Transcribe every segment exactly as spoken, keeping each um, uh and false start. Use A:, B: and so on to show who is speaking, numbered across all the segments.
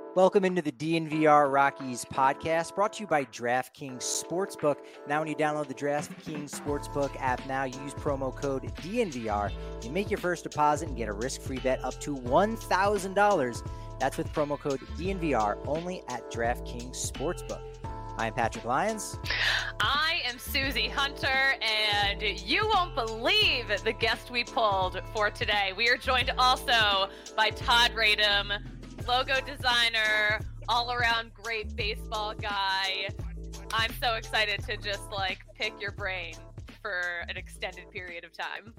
A: Welcome into the D N V R Rockies podcast, brought to you by DraftKings Sportsbook. Now, when you download the DraftKings Sportsbook app now, you use promo code D N V R. You make your first deposit and get a risk-free bet up to one thousand dollars. That's with promo code D N V R, only at DraftKings Sportsbook. I'm Patrick Lyons.
B: I am Susie Hunter, and you won't believe the guest we pulled for today. We are joined also by Todd Radom, logo designer, all-around great baseball guy. I'm so excited to just like pick your brain for an extended period of time.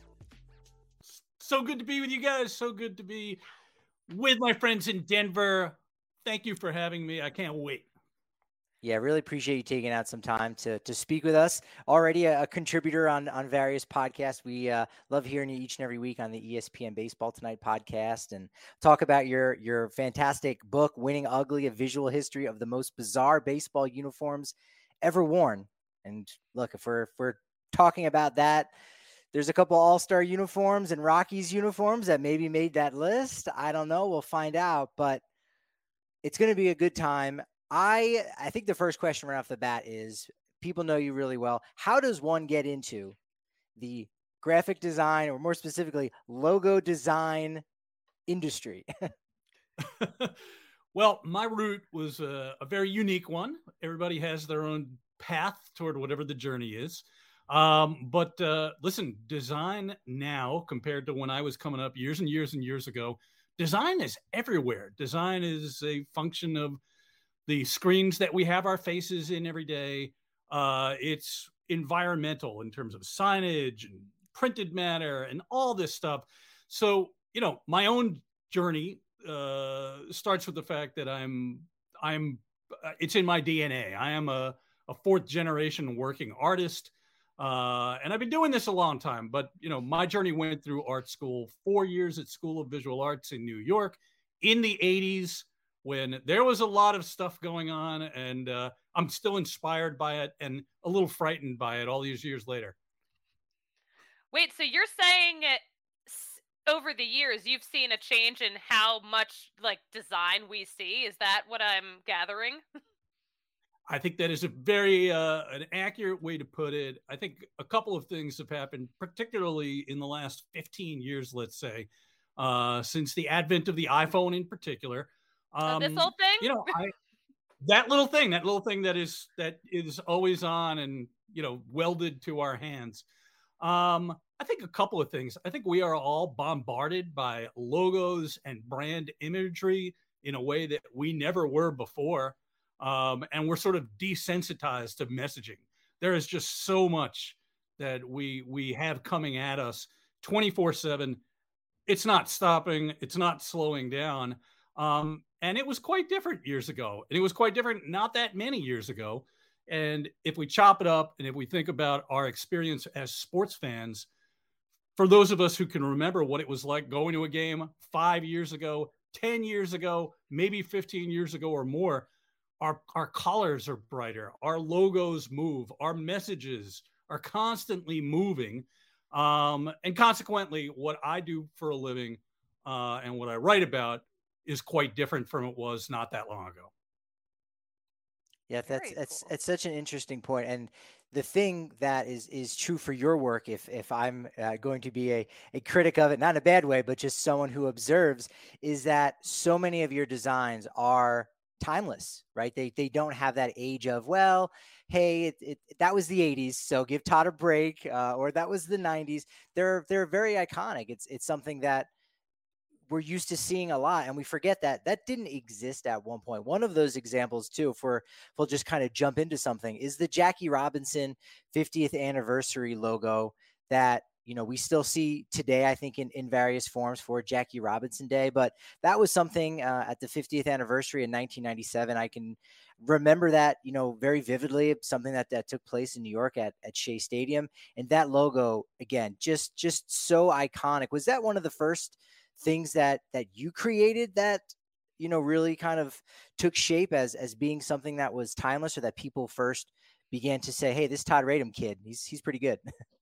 C: So good to be with you guys. So good to be with my friends in Denver. Thank you for having me. I can't wait.
A: Yeah, really appreciate you taking out some time to to speak with us. Already a, a contributor on on various podcasts. We uh, love hearing you each and every week on the E S P N Baseball Tonight podcast, and talk about your your fantastic book, Winning Ugly: A Visual History of the Most Bizarre Baseball Uniforms Ever Worn. And look, if we're if we're talking about that, there's a couple All-Star uniforms and Rockies uniforms that maybe made that list. I don't know. We'll find out, but it's going to be a good time. I I think the first question right off the bat is, people know you really well. How does one get into the graphic design, or more specifically, logo design industry?
C: Well, my route was a, a very unique one. Everybody has their own path toward whatever the journey is. Um, but uh, listen, design now compared to when I was coming up years and years and years ago, design is everywhere. Design is a function of the screens that we have our faces in every day. Uh, it's environmental in terms of signage and printed matter and all this stuff. So, you know, my own journey uh, starts with the fact that I'm, I'm, uh, it's in my D N A. I am a, a fourth generation working artist. Uh, and I've been doing this a long time, but, you know, my journey went through art school, four years at School of Visual Arts in New York in the eighties, when there was a lot of stuff going on, and uh, I'm still inspired by it and a little frightened by it all these years later.
B: Wait, so you're saying over the years you've seen a change in how much like design we see? Is that what I'm gathering?
C: I think that is a very uh, an accurate way to put it. I think a couple of things have happened, particularly in the last fifteen years, let's say, uh, since the advent of the iPhone in particular.
B: Um, oh, this whole thing,
C: you know, I, that little thing, that little thing that is that is always on and, you know, welded to our hands. Um, I think a couple of things. I think we are all bombarded by logos and brand imagery in a way that we never were before, um, and we're sort of desensitized to messaging. There is just so much that we we have coming at us twenty-four seven. It's not stopping. It's not slowing down. Um, and it was quite different years ago. And it was quite different not that many years ago. And if we chop it up, and if we think about our experience as sports fans, for those of us who can remember what it was like going to a game five years ago, ten years ago, maybe fifteen years ago or more, our, our colors are brighter. Our logos move. Our messages are constantly moving. Um, and consequently, what I do for a living uh, and what I write about is quite different from it was not that long ago.
A: Yeah, that's that's cool. It's such an interesting point. And the thing that is is true for your work, if if I'm uh, going to be a, a critic of it, not in a bad way, but just someone who observes, is that so many of your designs are timeless, right? They they don't have that age of, well, hey, it, it, that was the eighties, so give Todd a break, uh, or that was the nineties. They're they're very iconic. It's it's something that we're used to seeing a lot, and we forget that that didn't exist at one point. One of those examples too, if we're, if we'll just kind of jump into something, is the Jackie Robinson fiftieth anniversary logo that, you know, we still see today, I think in, in various forms for Jackie Robinson Day. But that was something uh, at the fiftieth anniversary in nineteen ninety-seven. I can remember that, you know, very vividly, something that, that took place in New York at, at Shea Stadium. And that logo, again, just, just so iconic. Was that one of the first things that that you created that, you know, really kind of took shape as as being something that was timeless, or that people first began to say, hey, this Todd Radom kid, he's he's pretty good?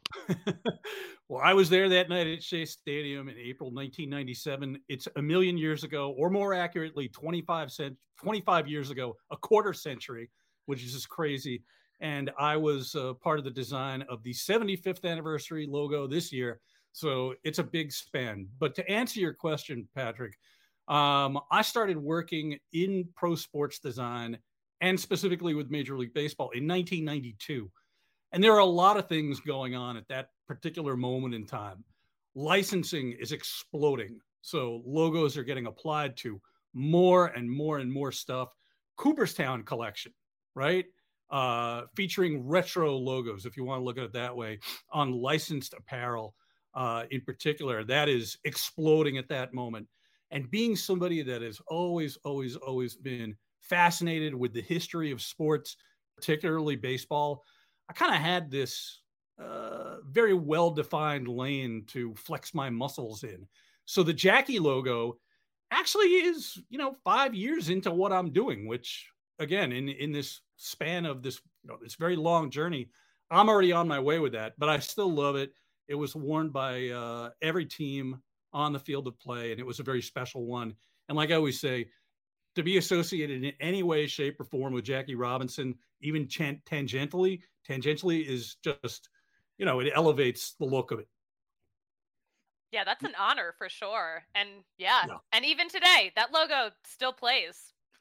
C: Well, I was there that night at Shea Stadium in April nineteen ninety-seven. It's a million years ago, or more accurately, twenty-five, cent- twenty-five years ago, a quarter century, which is just crazy. And I was uh, part of the design of the seventy-fifth anniversary logo this year. So it's a big span. But to answer your question, Patrick, um, I started working in pro sports design and specifically with Major League Baseball in nineteen ninety-two. And there are a lot of things going on at that particular moment in time. Licensing is exploding. So logos are getting applied to more and more and more stuff. Cooperstown collection, right? Uh, featuring retro logos, if you want to look at it that way, on licensed apparel uh, in particular. That is exploding at that moment. And being somebody that has always, always, always been fascinated with the history of sports, particularly baseball, I kind of had this uh, very well-defined lane to flex my muscles in. So the Jackie logo actually is, you know, five years into what I'm doing, which again, in, in this span of this, you know, this very long journey, I'm already on my way with that, but I still love it. It was worn by uh, every team on the field of play, and it was a very special one. And like I always say, to be associated in any way, shape, or form with Jackie Robinson, even ch- tangentially, tangentially is just, you know, it elevates the look of it.
B: Yeah, that's an honor for sure. And yeah, yeah. And even today, that logo still plays.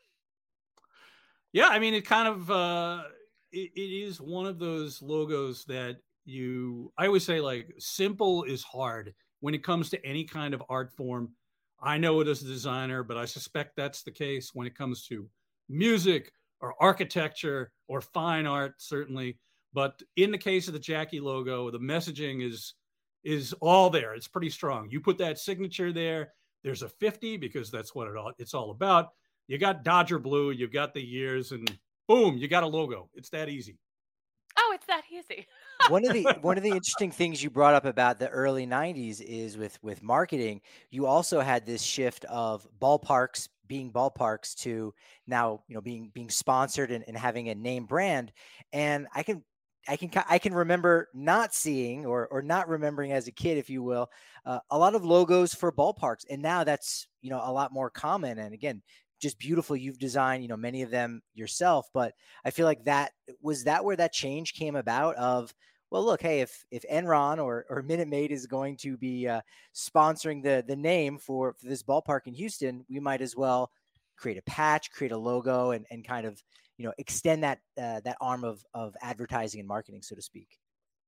C: Yeah, I mean, it kind of, uh, it, it is one of those logos that you, I always say, like, simple is hard when it comes to any kind of art form. I know it as a designer, but I suspect that's the case when it comes to music or architecture or fine art, certainly. But in the case of the Jackie logo, the messaging is is all there. It's pretty strong. You put that signature there, there's a fifty because that's what it all, it's all about. You got Dodger blue, you've got the years, and boom, you got a logo. It's that easy.
B: Oh, it's that easy.
A: one of the one of the interesting things you brought up about the early nineties is with with marketing, you also had this shift of ballparks being ballparks to now, you know, being being sponsored and, and having a name brand. And I can I can I can remember not seeing or or not remembering as a kid, if you will, uh, a lot of logos for ballparks, and now that's, you know, a lot more common. And again, just beautiful. You've designed, you know, many of them yourself, but I feel like that was that where that change came about of, well, look, hey, if, if Enron or, or Minute Maid is going to be uh, sponsoring the, the name for, for this ballpark in Houston, we might as well create a patch, create a logo, and, and kind of, you know, extend that, uh, that arm of, of advertising and marketing, so to speak.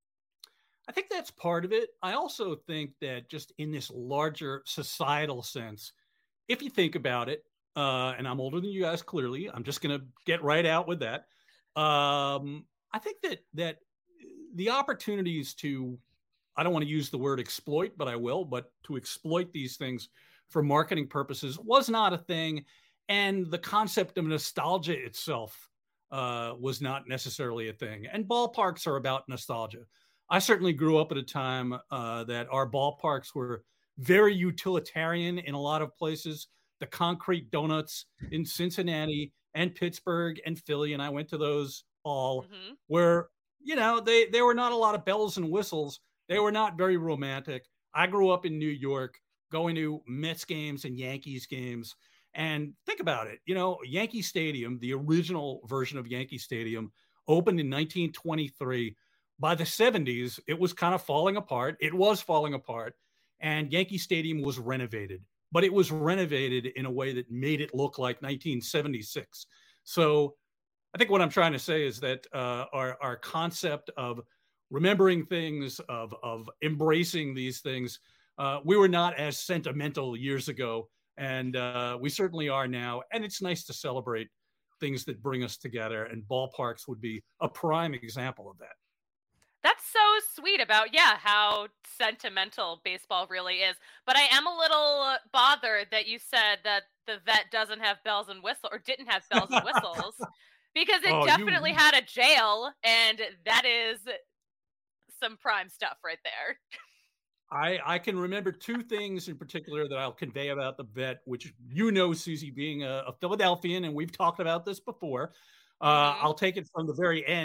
C: I think that's part of it. I also think that just in this larger societal sense, if you think about it, Uh, and I'm older than you guys, clearly. I'm just going to get right out with that. Um, I think that that the opportunities to, I don't want to use the word exploit, but I will, but to exploit these things for marketing purposes was not a thing. And the concept of nostalgia itself uh, was not necessarily a thing. And ballparks are about nostalgia. I certainly grew up at a time uh, that our ballparks were very utilitarian in a lot of places. The concrete donuts in Cincinnati and Pittsburgh and Philly, and I went to those all, mm-hmm. where, you know, they, there were not a lot of bells and whistles. They were not very romantic. I grew up in New York, going to Mets games and Yankees games. And think about it, you know, Yankee Stadium, the original version of Yankee Stadium, opened in nineteen twenty-three. By the seventies, it was kind of falling apart. It was falling apart, and Yankee Stadium was renovated. But it was renovated in a way that made it look like nineteen seventy-six. So I think what I'm trying to say is that uh, our, our concept of remembering things, of, of embracing these things, uh, we were not as sentimental years ago, and uh, we certainly are now. And it's nice to celebrate things that bring us together, and ballparks would be a prime example of that.
B: That's so sweet about, yeah, how sentimental baseball really is. But I am a little bothered that you said that the vet doesn't have bells and whistles, or didn't have bells and whistles, because it oh, definitely you... had a jail, and that is some prime stuff right there.
C: I, I can remember two things in particular that I'll convey about the vet, which, you know, Susie, being a, a Philadelphian, and we've talked about this before. Uh, mm-hmm. I'll take it from the very end.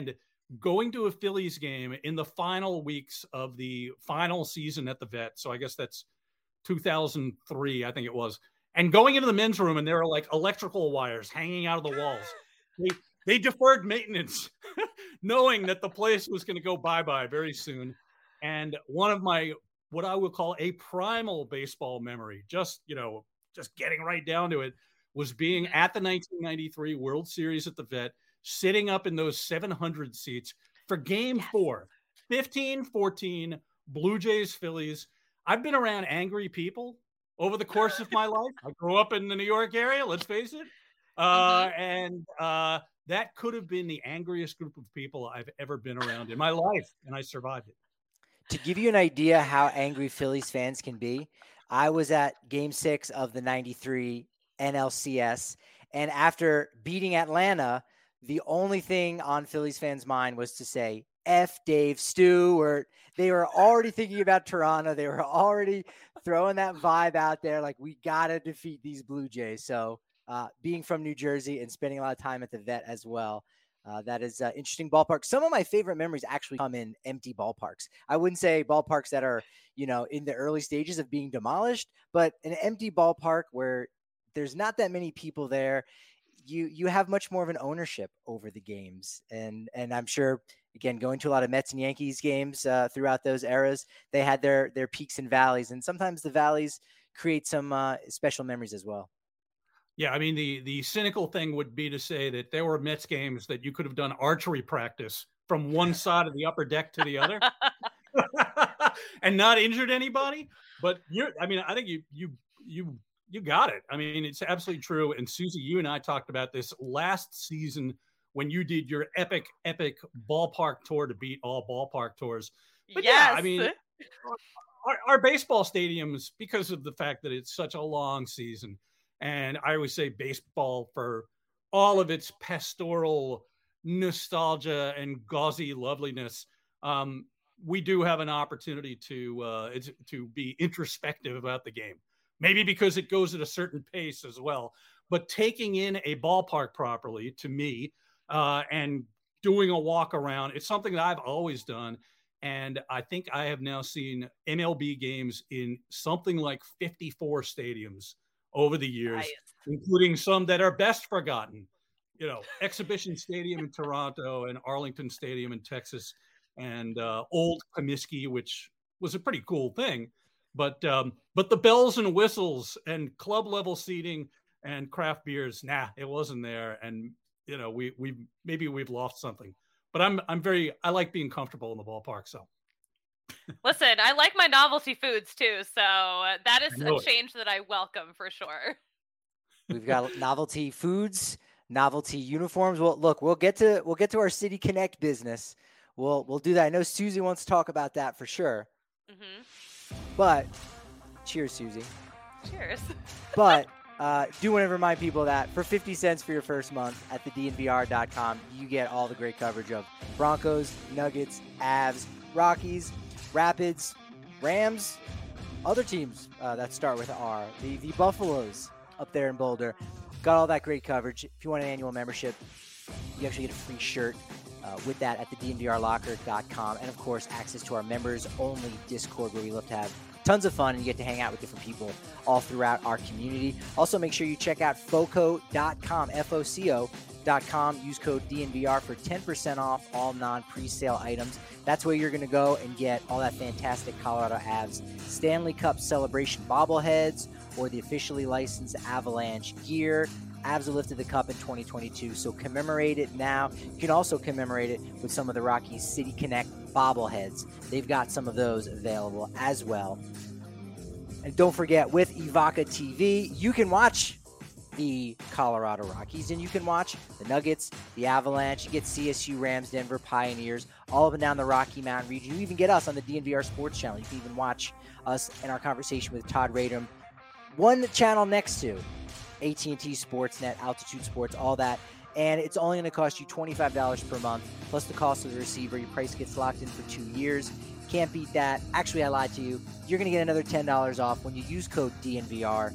C: going to a Phillies game in the final weeks of the final season at the Vet. So I guess that's two thousand three, I think it was. And going into the men's room, and there are like electrical wires hanging out of the walls. They, they deferred maintenance, knowing that the place was going to go bye-bye very soon. And one of my, what I would call a primal baseball memory, just, you know, just getting right down to it, was being at the nineteen ninety-three World Series at the Vet, sitting up in those seven hundred seats for game yes. four, fifteen fourteen, Blue Jays, Phillies. I've been around angry people over the course of my life. I grew up in the New York area, let's face it. Uh, mm-hmm. And uh, that could have been the angriest group of people I've ever been around in my life, and I survived it.
A: To give you an idea how angry Phillies fans can be, I was at game six of the ninety-three N L C S, and after beating Atlanta, the only thing on Phillies fans' mind was to say, F Dave Stewart. They were already thinking about Toronto. They were already throwing that vibe out there, like, we got to defeat these Blue Jays. So uh, being from New Jersey and spending a lot of time at the Vet as well, uh, that is an uh, interesting ballpark. Some of my favorite memories actually come in empty ballparks. I wouldn't say ballparks that are, you know, in the early stages of being demolished, but an empty ballpark where there's not that many people there. You you have much more of an ownership over the games. And and I'm sure, again, going to a lot of Mets and Yankees games uh, throughout those eras, they had their their peaks and valleys. And sometimes the valleys create some uh, special memories as well.
C: Yeah, I mean, the the cynical thing would be to say that there were Mets games that you could have done archery practice from one side of the upper deck to the other and not injured anybody. But you're, I mean, I think you you you you got it. I mean, it's absolutely true. And Susie, you and I talked about this last season when you did your epic, epic ballpark tour to beat all ballpark tours. But
B: yes.
C: yeah, I mean, our, our baseball stadiums, because of the fact that it's such a long season, and I always say baseball for all of its pastoral nostalgia and gauzy loveliness, um, we do have an opportunity to uh, to be introspective about the game. Maybe because it goes at a certain pace as well. But taking in a ballpark properly, to me, uh, and doing a walk around, it's something that I've always done. And I think I have now seen M L B games in something like fifty-four stadiums over the years, nice. Including some that are best forgotten. You know, Exhibition Stadium in Toronto and Arlington Stadium in Texas, and uh, Old Comiskey, which was a pretty cool thing. But um, but the bells and whistles and club level seating and craft beers, nah, it wasn't there. And you know, we we maybe we've lost something. But I'm I'm very I like being comfortable in the ballpark. So
B: listen, I like my novelty foods too. So that is a
C: it.
B: change that I welcome for sure.
A: We've got novelty foods, novelty uniforms. Well, look, we'll get to we'll get to our City Connect business. We'll we'll do that. I know Susie wants to talk about that for sure. Mm-hmm. But cheers, Susie.
B: Cheers.
A: But uh, do want to remind people that for fifty cents for your first month at the D N V R dot com, you get all the great coverage of Broncos, Nuggets, Avs, Rockies, Rapids, Rams, other teams uh, that start with R, the, the Buffaloes up there in Boulder. Got all that great coverage. If you want an annual membership, you actually get a free shirt Uh, with that at the D N V R locker dot com, and of course access to our members only Discord, where we love to have tons of fun and you get to hang out with different people all throughout our community. Also, make sure you check out foco dot com, F O C O dot com. Use code D N V R for ten percent off all non-presale items. That's where you're going to go and get all that fantastic Colorado Avs Stanley Cup celebration bobbleheads or the officially licensed Avalanche gear. Avs have lifted the cup in twenty twenty-two, so commemorate it now. You can also commemorate it with some of the Rockies City Connect bobbleheads. They've got some of those available as well. And don't forget, with Evoca T V, you can watch the Colorado Rockies, and you can watch the Nuggets, the Avalanche. You get C S U, Rams, Denver, Pioneers, all up and down the Rocky Mountain region. You even get us on the D N V R Sports Channel. You can even watch us in our conversation with Todd Radom. One channel next to A T and T Sportsnet, Altitude Sports, all that. And it's only going to cost you twenty-five dollars per month, plus the cost of the receiver. Your price gets locked in for two years. Can't beat that. Actually, I lied to you. You're going to get another ten dollars off when you use code D N V R.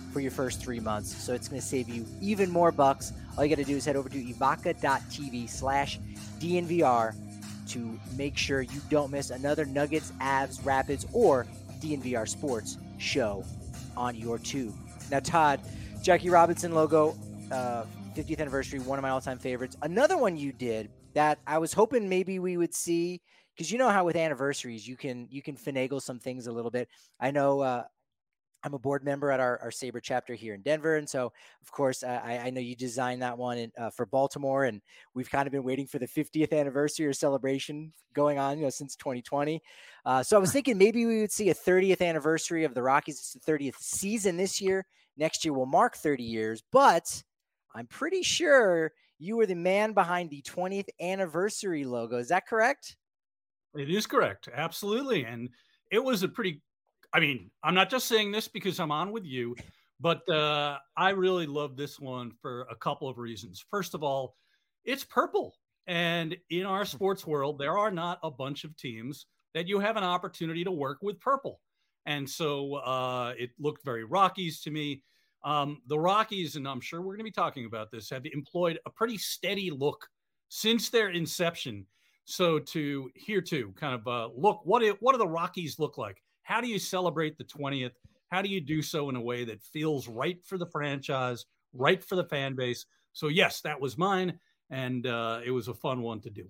A: for your first three months. So it's going to save you even more bucks. All you got to do is head over to evoca.tv slash DNVR to make sure you don't miss another Nuggets, Avs, Rapids, or D N V R Sports show on your tube. Now, Todd, Jackie Robinson logo, uh, fiftieth anniversary, one of my all-time favorites. Another one you did that I was hoping maybe we would see, because you know how with anniversaries you can you can finagle some things a little bit. I know uh, I'm a board member at our, our Sabre chapter here in Denver. And so, of course, uh, I, I know you designed that one in, uh, for Baltimore, and we've kind of been waiting for the fiftieth anniversary or celebration going on, you know, since twenty twenty. Uh, so I was thinking maybe we would see a thirtieth anniversary of the Rockies. It's the thirtieth season this year. Next year will mark thirty years, but I'm pretty sure you were the man behind the twentieth anniversary logo. Is that correct?
C: It is correct. Absolutely. And it was a pretty, I mean, I'm not just saying this because I'm on with you, but uh, I really love this one for a couple of reasons. First of all, it's purple. And in our sports world, there are not a bunch of teams that you have an opportunity to work with purple. And so uh, it looked very Rockies to me. Um, the Rockies, and I'm sure we're going to be talking about this, have employed a pretty steady look since their inception. So to here to kind of uh, look, what, it, what do the Rockies look like? How do you celebrate the twentieth? How do you do so in a way that feels right for the franchise, right for the fan base? So yes, that was mine. And uh, it was a fun one to do.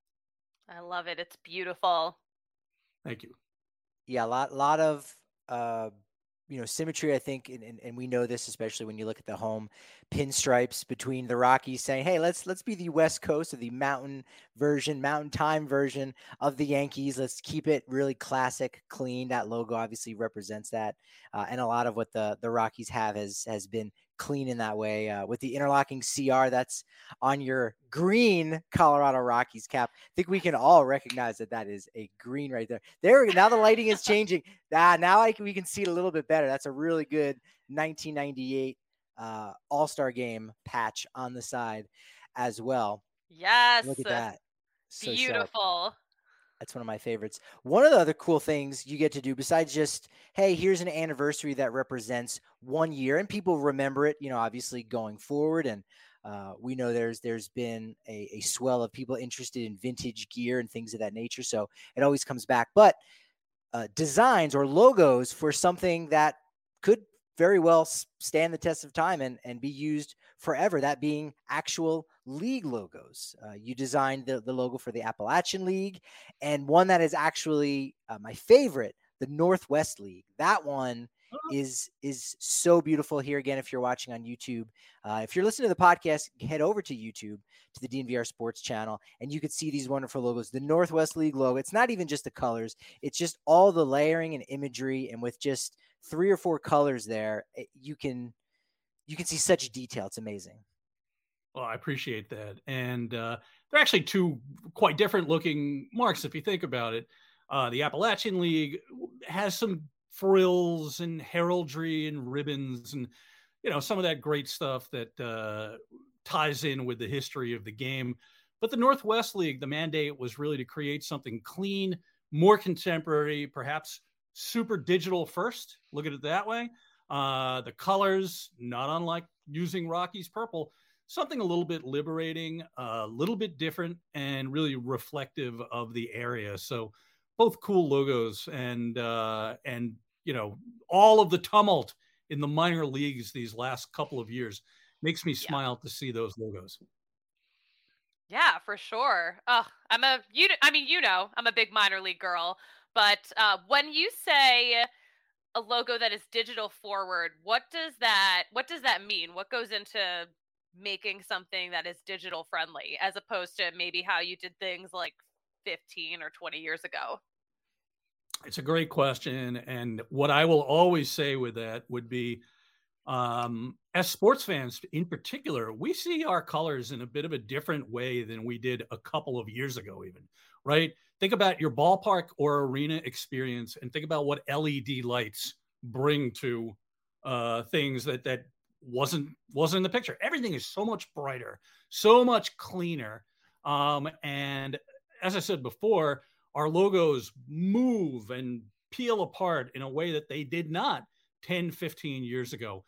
B: I love it. It's beautiful.
C: Thank you.
A: Yeah, a lot, lot of, uh, you know, symmetry, I think, and, and, and we know this, especially when you look at the home pinstripes between the Rockies saying, hey, let's let's be the West Coast of the mountain version, mountain time version of the Yankees. Let's keep it really classic, clean. That logo obviously represents that. Uh, and a lot of what the, the Rockies have has, has been clean in that way. Uh, with the interlocking C R that's on your green Colorado Rockies cap, I think we can all recognize that that is a green right there. There, now the lighting is changing. Ah, now I can, we can see it a little bit better. That's a really good nineteen ninety-eight uh, All-Star Game patch on the side as well.
B: Yes.
A: Look at that. So
B: beautiful.
A: Sharp. That's one of my favorites. One of the other cool things you get to do besides just, hey, here's an anniversary that represents one year and people remember it, you know, obviously going forward. And uh, we know there's there's been a, a swell of people interested in vintage gear and things of that nature. So it always comes back. But uh, designs or logos for something that could very well stand the test of time and, and be used forever, that being actual league logos. Uh, you designed the, the logo for the Appalachian League, and one that is actually uh, my favorite, the Northwest League. That one is is so beautiful. Here again, if you're watching on YouTube, uh, if you're listening to the podcast, head over to YouTube, to the D N V R Sports channel, and you could see these wonderful logos. The Northwest League logo, it's not even just the colors, it's just all the layering and imagery, and with just three or four colors there, you can you can see such detail. It's amazing.
C: Well, I appreciate that. And uh, they're actually two quite different looking marks if you think about it. Uh, the Appalachian League has some frills and heraldry and ribbons and, you know, some of that great stuff that uh, ties in with the history of the game. But the Northwest League, the mandate was really to create something clean, more contemporary, perhaps super digital first. Look at it that way. Uh, the colors, not unlike using Rockies purple, something a little bit liberating, a little bit different, and really reflective of the area. So both cool logos, and, uh, and you know, all of the tumult in the minor leagues these last couple of years makes me smile yeah. to see those logos.
B: Yeah, for sure. Oh, I'm a, you, I mean, you know, I'm a big minor league girl, but uh, when you say a logo that is digital forward, what does that, what does that mean? What goes into making something that is digital friendly as opposed to maybe how you did things like fifteen or twenty years ago?
C: It's a great question. And what I will always say with that would be, um, as sports fans in particular, we see our colors in a bit of a different way than we did a couple of years ago, even, right? Think about your ballpark or arena experience and think about what L E D lights bring to uh, things that, that wasn't, wasn't in the picture. Everything is so much brighter, so much cleaner. Um, and as I said before, our logos move and peel apart in a way that they did not ten, fifteen years ago.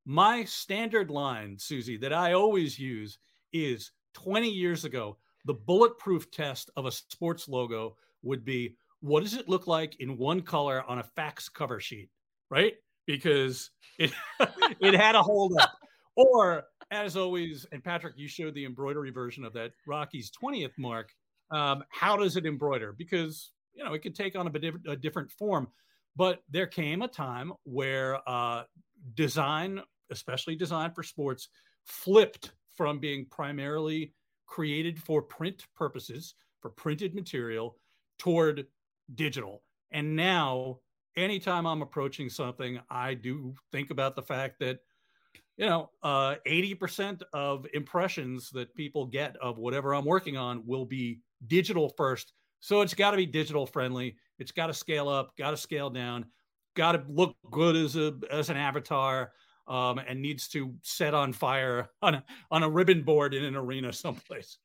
C: My standard line, Susie, that I always use is twenty years ago, the bulletproof test of a sports logo would be, what does it look like in one color on a fax cover sheet, right? Because it it had a hold up. Or, as always, and Patrick, you showed the embroidery version of that Rocky's twentieth mark. Um, how does it embroider? Because, you know, it could take on a, bit, a different form. But there came a time where uh, design, especially design for sports, flipped from being primarily created for print purposes, for printed material, toward digital. And now, anytime I'm approaching something, I do think about the fact that, you know, uh, eighty percent of impressions that people get of whatever I'm working on will be digital first. So it's got to be digital friendly. It's got to scale up, got to scale down, got to look good as a as an avatar, um, and needs to set on fire on a, on a ribbon board in an arena someplace.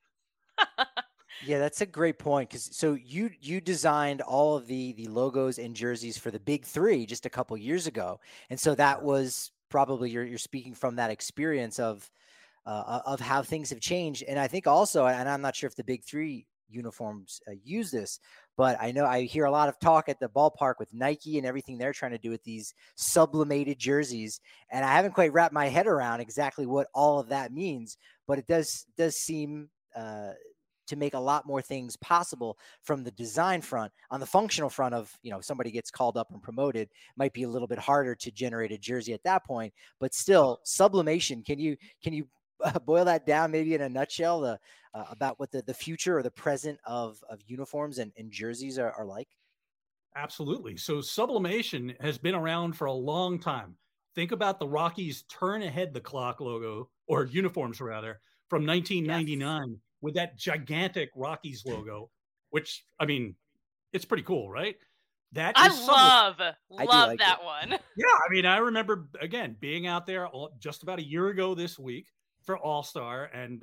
A: Yeah, that's a great point. Because so you you designed all of the the logos and jerseys for the big three just a couple years ago, and so that was probably you're you're speaking from that experience of uh, of how things have changed. And I think also, and I'm not sure if the big three uniforms uh, use this, but I know I hear a lot of talk at the ballpark with Nike and everything they're trying to do with these sublimated jerseys, and I haven't quite wrapped my head around exactly what all of that means. But it does does seem uh, to make a lot more things possible from the design front. On the functional front of, you know, somebody gets called up and promoted, might be a little bit harder to generate a jersey at that point, but still sublimation. Can you, can you uh, boil that down maybe in a nutshell, the, uh, about what the, the future or the present of, of uniforms and, and jerseys are, are like?
C: Absolutely. So sublimation has been around for a long time. Think about the Rockies turn ahead the clock logo, or uniforms rather, from nineteen ninety-nine. Yes. With that gigantic Rockies logo, which, I mean, it's pretty cool, right? That
B: I
C: is
B: love,
A: I
B: love
A: like
B: that
A: it.
B: one.
C: Yeah, I mean, I remember, again, being out there all, just about a year ago this week for All-Star, and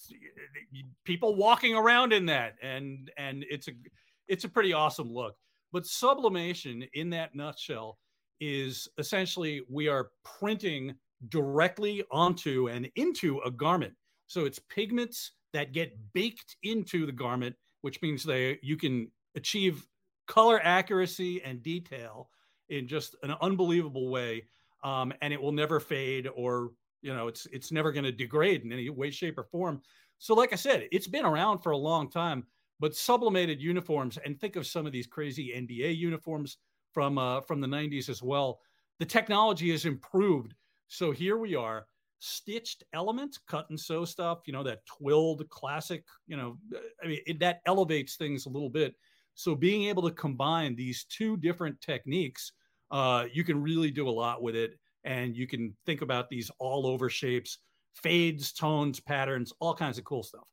C: people walking around in that, and and it's a it's a pretty awesome look. But sublimation, in that nutshell, is essentially we are printing directly onto and into a garment. So it's pigments that get baked into the garment, which means they you can achieve color accuracy and detail in just an unbelievable way, um, and it will never fade, or you know, it's it's never going to degrade in any way, shape, or form. So, like I said, it's been around for a long time. But sublimated uniforms, and think of some of these crazy N B A uniforms from uh, from the nineties as well. The technology has improved. So here we are. Stitched elements, cut and sew stuff, you know, that twilled classic, you know, I mean, it, that elevates things a little bit. So being able to combine these two different techniques, uh, you can really do a lot with it. And you can think about these all over shapes, fades, tones, patterns, all kinds of cool stuff.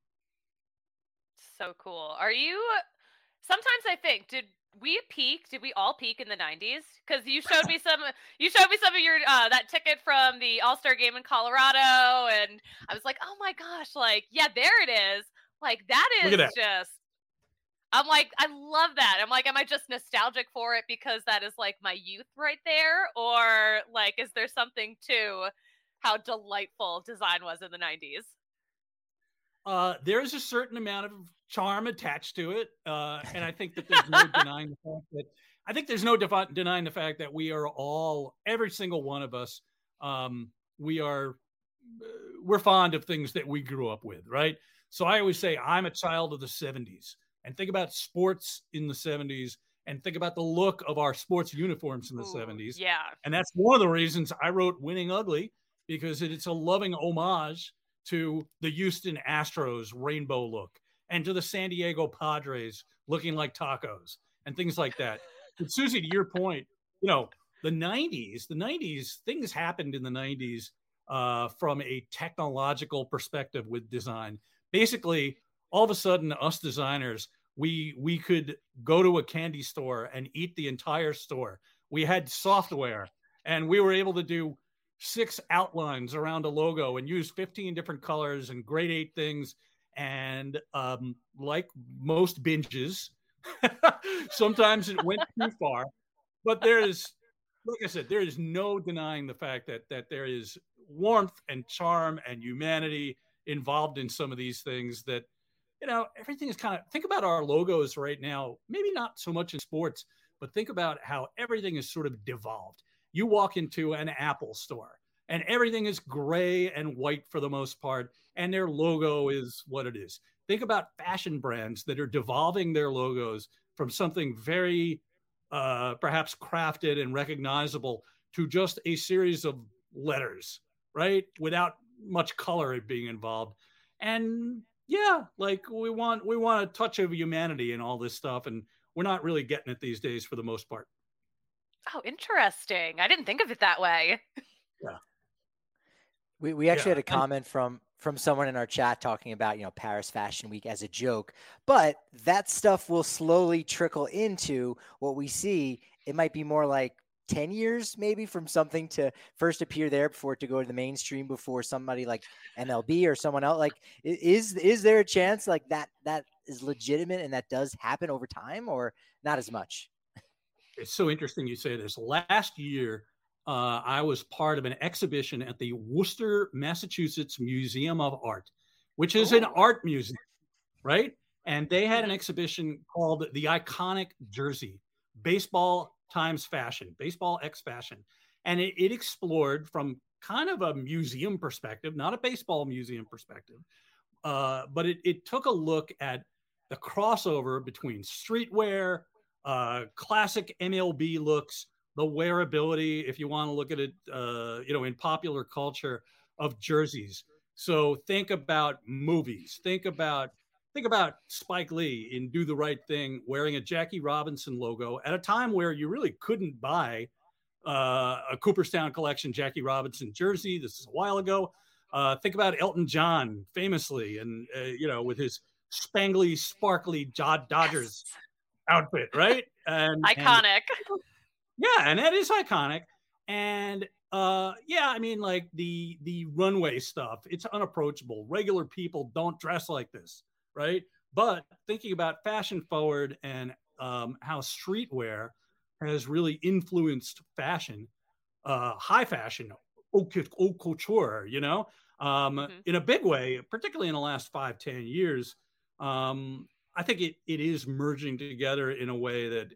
B: So cool. Are you, sometimes I think, did we peak? Did we all peak in the nineties? Because you showed me some. You showed me some of your uh, that ticket from the All-Star game in Colorado, and I was like, "Oh my gosh!" Like, yeah, there it is. Like that is that. just. I'm like, I love that. I'm like, am I just nostalgic for it because that is like my youth right there, or like, is there something to how delightful design was in the nineties?
C: Uh, there's a certain amount of charm attached to it, uh, and I think that there's no denying the fact that I think there's no defi- denying the fact that we are all, every single one of us, um, we are uh, we're fond of things that we grew up with, right? So I always say I'm a child of the seventies, and think about sports in the seventies, and think about the look of our sports uniforms in the Ooh, seventies.
B: Yeah,
C: and that's one of the reasons I wrote "Winning Ugly," because it's a loving homage to the Houston Astros rainbow look, and to the San Diego Padres looking like tacos, and things like that. But Susie, to your point, you know, the nineties, the nineties, things happened in the nineties uh, from a technological perspective with design. Basically, all of a sudden, us designers, we we could go to a candy store and eat the entire store. We had software, and we were able to do six outlines around a logo and use fifteen different colors and grade eight things. And um, like most binges, sometimes it went too far, but there's, like I said, there is no denying the fact that that there is warmth and charm and humanity involved in some of these things that, you know, everything is kind of, think about our logos right now, maybe not so much in sports, but think about how everything is sort of devolved. You walk into an Apple store and everything is gray and white for the most part, and their logo is what it is. Think about fashion brands that are devolving their logos from something very uh, perhaps crafted and recognizable to just a series of letters, right? Without much color being involved. And yeah, like we want, we want a touch of humanity in all this stuff. And we're not really getting it these days for the most part.
B: Oh, interesting. I didn't think of it that way.
C: Yeah.
A: We we actually
C: yeah.
A: had a comment from from someone in our chat talking about, you know, Paris Fashion Week as a joke, but that stuff will slowly trickle into what we see. It might be more like ten years maybe from something to first appear there before it to go to the mainstream before somebody like M L B or someone else. Like, is is there a chance like that that is legitimate and that does happen over time, or not as much?
C: It's so interesting you say this. Last year, uh, I was part of an exhibition at the Worcester, Massachusetts Museum of Art, which is oh. an art museum, right? And they had an exhibition called The Iconic Jersey, Baseball times Fashion, Baseball X Fashion. And it, it explored from kind of a museum perspective, not a baseball museum perspective, uh, but it, it took a look at the crossover between streetwear, uh, classic M L B looks, the wearability, if you want to look at it, uh, you know, in popular culture of jerseys. So think about movies, think about, think about Spike Lee in Do the Right Thing, wearing a Jackie Robinson logo at a time where you really couldn't buy uh, a Cooperstown Collection Jackie Robinson jersey. This is a while ago. Uh, think about Elton John famously, and, uh, you know, with his spangly, sparkly Dodgers outfit, right? And
B: iconic.
C: And, yeah, and that is iconic. And uh, yeah, I mean, like the the runway stuff, it's unapproachable. Regular people don't dress like this, right? But thinking about fashion forward and um, how streetwear has really influenced fashion, uh, high fashion, haute couture, you know, um, mm-hmm. in a big way, particularly in the last five, ten years. Um, I think it it is merging together in a way that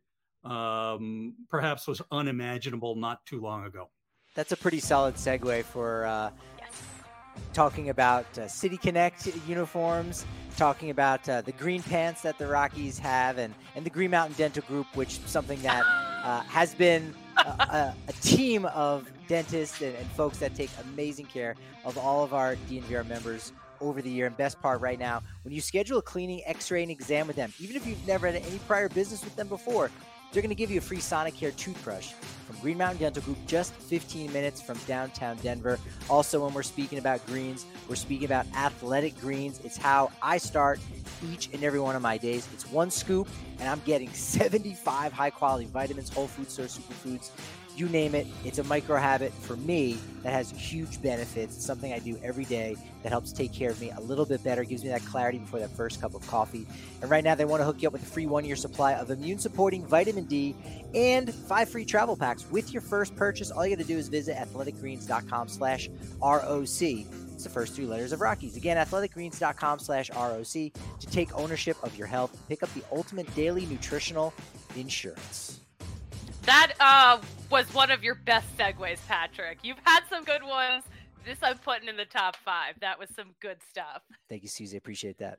C: um, perhaps was unimaginable not too long ago.
A: That's a pretty solid segue for uh, yes. talking about uh, City Connect uniforms, talking about uh, the green pants that the Rockies have, and, and the Green Mountain Dental Group, which is something that uh, has been a, a, a team of dentists and, and folks that take amazing care of all of our D N V R members over the year. And best part right now, when you schedule a cleaning, x-ray, and exam with them, even if you've never had any prior business with them before, they're going to give you a free Sonicare toothbrush from Green Mountain Dental Group, just fifteen minutes from downtown Denver. Also, when we're speaking about greens, we're speaking about Athletic Greens. It's how I start each and every one of my days. It's one scoop, and I'm getting seventy-five high-quality vitamins, whole food source superfoods, you name it. It's a micro habit for me that has huge benefits. It's something I do every day that helps take care of me a little bit better, gives me that clarity before that first cup of coffee. And right now they want to hook you up with a free one-year supply of immune-supporting vitamin D and five free travel packs with your first purchase. All you got to do is visit athleticgreens.com slash ROC. It's the first three letters of Rockies. Again, athleticgreens.com slash ROC to take ownership of your health. Pick up the ultimate daily nutritional insurance.
B: That uh, was one of your best segues, Patrick. You've had some good ones. This I'm putting in the top five. That was some good stuff.
A: Thank you, Susie. Appreciate that.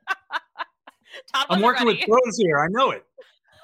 C: I'm working ready. with pros here. I know it.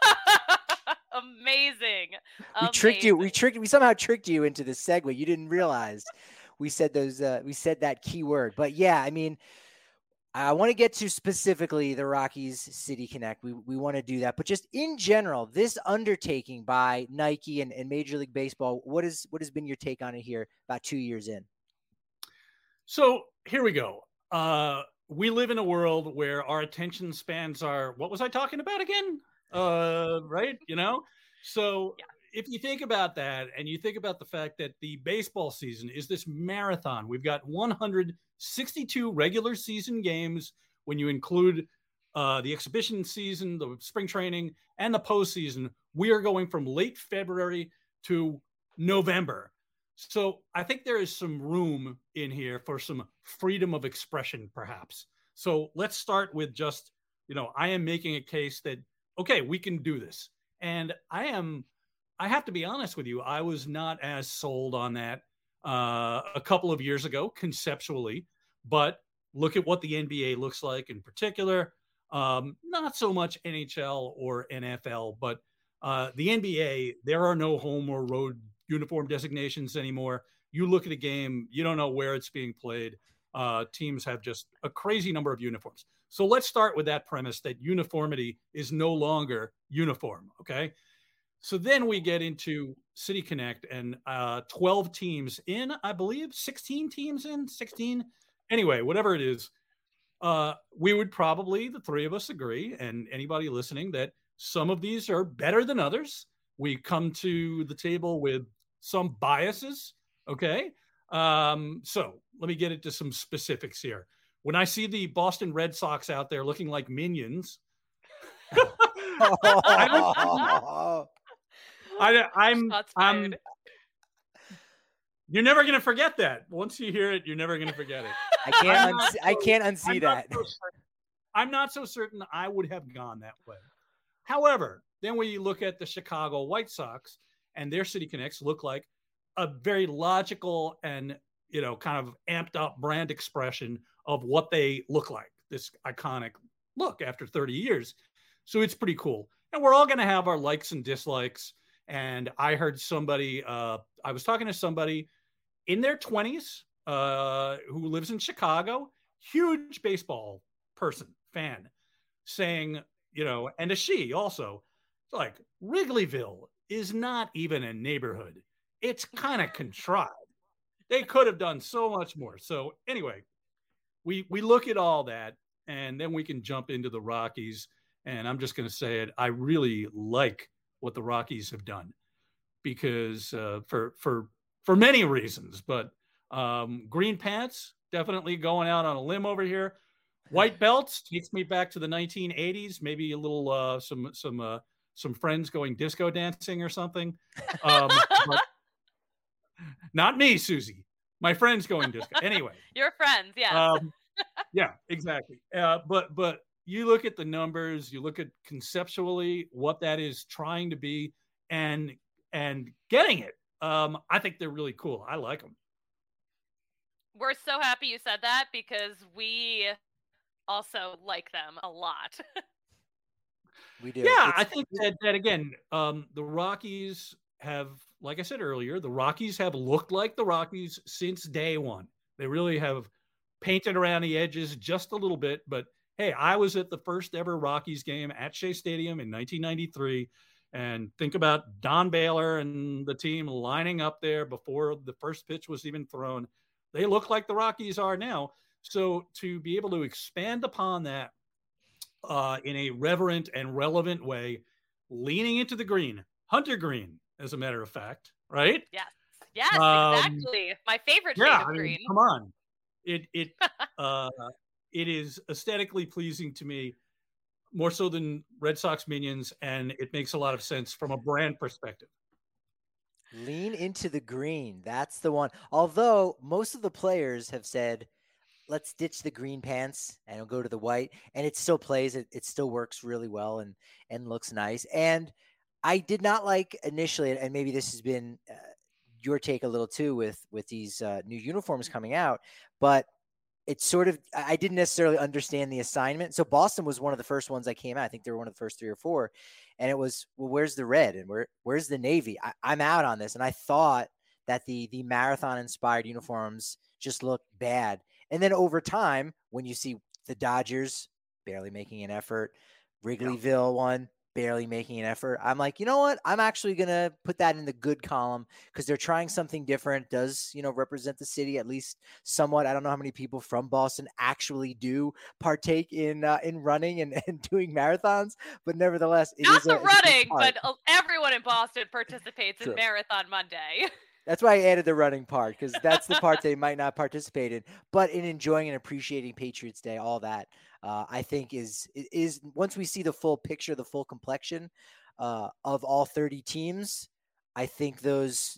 B: Amazing.
A: We
B: Amazing.
A: tricked you. We tricked. We somehow tricked you into this segue. You didn't realize we said those. Uh, we said that key word. But yeah, I mean, I want to get to specifically the Rockies City Connect. We we want to do that, but just in general, this undertaking by Nike and, and Major League Baseball, what is what has been your take on it here about two years in?
C: So here we go. Uh, we live in a world where our attention spans are, what was I talking about again? Uh, right? You know, so yeah. If you think about that and you think about the fact that the baseball season is this marathon, we've got one hundred sixty-two regular season games when you include uh, the exhibition season, the spring training, and the postseason. We are going from late February to November. So I think there is some room in here for some freedom of expression, perhaps. So let's start with just, you know, I am making a case that, okay, we can do this. And I am, I have to be honest with you, I was not as sold on that uh, a couple of years ago, conceptually, but look at what the N B A looks like in particular. Um, not so much N H L or N F L, but uh, the N B A, there are no home or road uniform designations anymore. You look at a game, you don't know where it's being played. Uh, teams have just a crazy number of uniforms. So let's start with that premise that uniformity is no longer uniform. Okay. So then we get into City Connect and uh, twelve teams in, I believe, sixteen teams in, sixteen. Anyway, whatever it is, uh, we would probably, the three of us agree, and anybody listening, that some of these are better than others. We come to the table with some biases, okay? Um, so let me get into some specifics here. When I see the Boston Red Sox out there looking like minions, I don't, I, I'm, I'm, you're never going to forget that. Once you hear it, you're never going to forget it.
A: I can't, uns- so, I can't unsee
C: I'm
A: that.
C: Not so I'm not so certain I would have gone that way. However, then when you look at the Chicago White Sox and their City Connects look like a very logical and, you know, kind of amped up brand expression of what they look like, this iconic look after thirty years. So it's pretty cool. And we're all going to have our likes and dislikes. And I heard somebody, uh, I was talking to somebody in their twenties uh, who lives in Chicago, huge baseball person, fan, saying, you know, and a she also, like, Wrigleyville is not even a neighborhood. It's kind of contrived. They could have done so much more. So anyway, we we look at all that, and then we can jump into the Rockies. And I'm just going to say it. I really like what the Rockies have done because uh, for for for many reasons. But um, green pants, definitely going out on a limb over here. White belts takes me back to the nineteen eighties. Maybe a little uh, some some uh, some friends going disco dancing or something. Um, but not me, Susie. My friends going disco. Anyway,
B: your friends, yeah,
C: um, yeah, exactly. Uh, but but you look at the numbers, you look at conceptually what that is trying to be, and and getting it. Um, I think they're really cool. I like them.
B: We're so happy you said that because we also like them a lot.
A: We do.
C: Yeah,
A: it's,
C: I think that, that again, um, the Rockies have, like I said earlier, the Rockies have looked like the Rockies since day one. They really have painted around the edges just a little bit. But hey, I was at the first ever Rockies game at Shea Stadium in nineteen ninety-three. And think about Don Baylor and the team lining up there before the first pitch was even thrown. They look like the Rockies are now. So to be able to expand upon that uh, in a reverent and relevant way, leaning into the green, Hunter green, as a matter of fact, right?
B: Yes, yes,
C: um,
B: exactly. My favorite shade
C: yeah,
B: of
C: I mean,
B: green.
C: Come on, it it uh, it is aesthetically pleasing to me, more so than Red Sox minions, and it makes a lot of sense from a brand perspective.
A: Lean into the green. That's the one. Although most of the players have said, let's ditch the green pants and we'll go to the white. And it still plays. It, it still works really well and, and looks nice. And I did not like initially, and maybe this has been uh, your take a little too with, with these uh, new uniforms coming out, but it's sort of, I didn't necessarily understand the assignment. So Boston was one of the first ones that came out. I think they were one of the first three or four. And it was, well, where's the red and where, where's the navy? I, I'm out on this. And I thought that the, the marathon inspired uniforms just looked bad. And then over time, when you see the Dodgers barely making an effort, Wrigleyville one, barely making an effort, I'm like, you know what? I'm actually going to put that in the good column because they're trying something different. Does, you know, represent the city at least somewhat. I don't know how many people from Boston actually do partake in uh, in running and, and doing marathons, but nevertheless, it
B: Not
A: is
B: the
A: a,
B: running, but everyone in Boston participates
A: True.
B: in Marathon Monday.
A: That's why I added the running part, because that's the part they might not participate in. But in enjoying and appreciating Patriots Day, all that, uh, I think is is once we see the full picture, the full complexion uh, of all thirty teams, I think those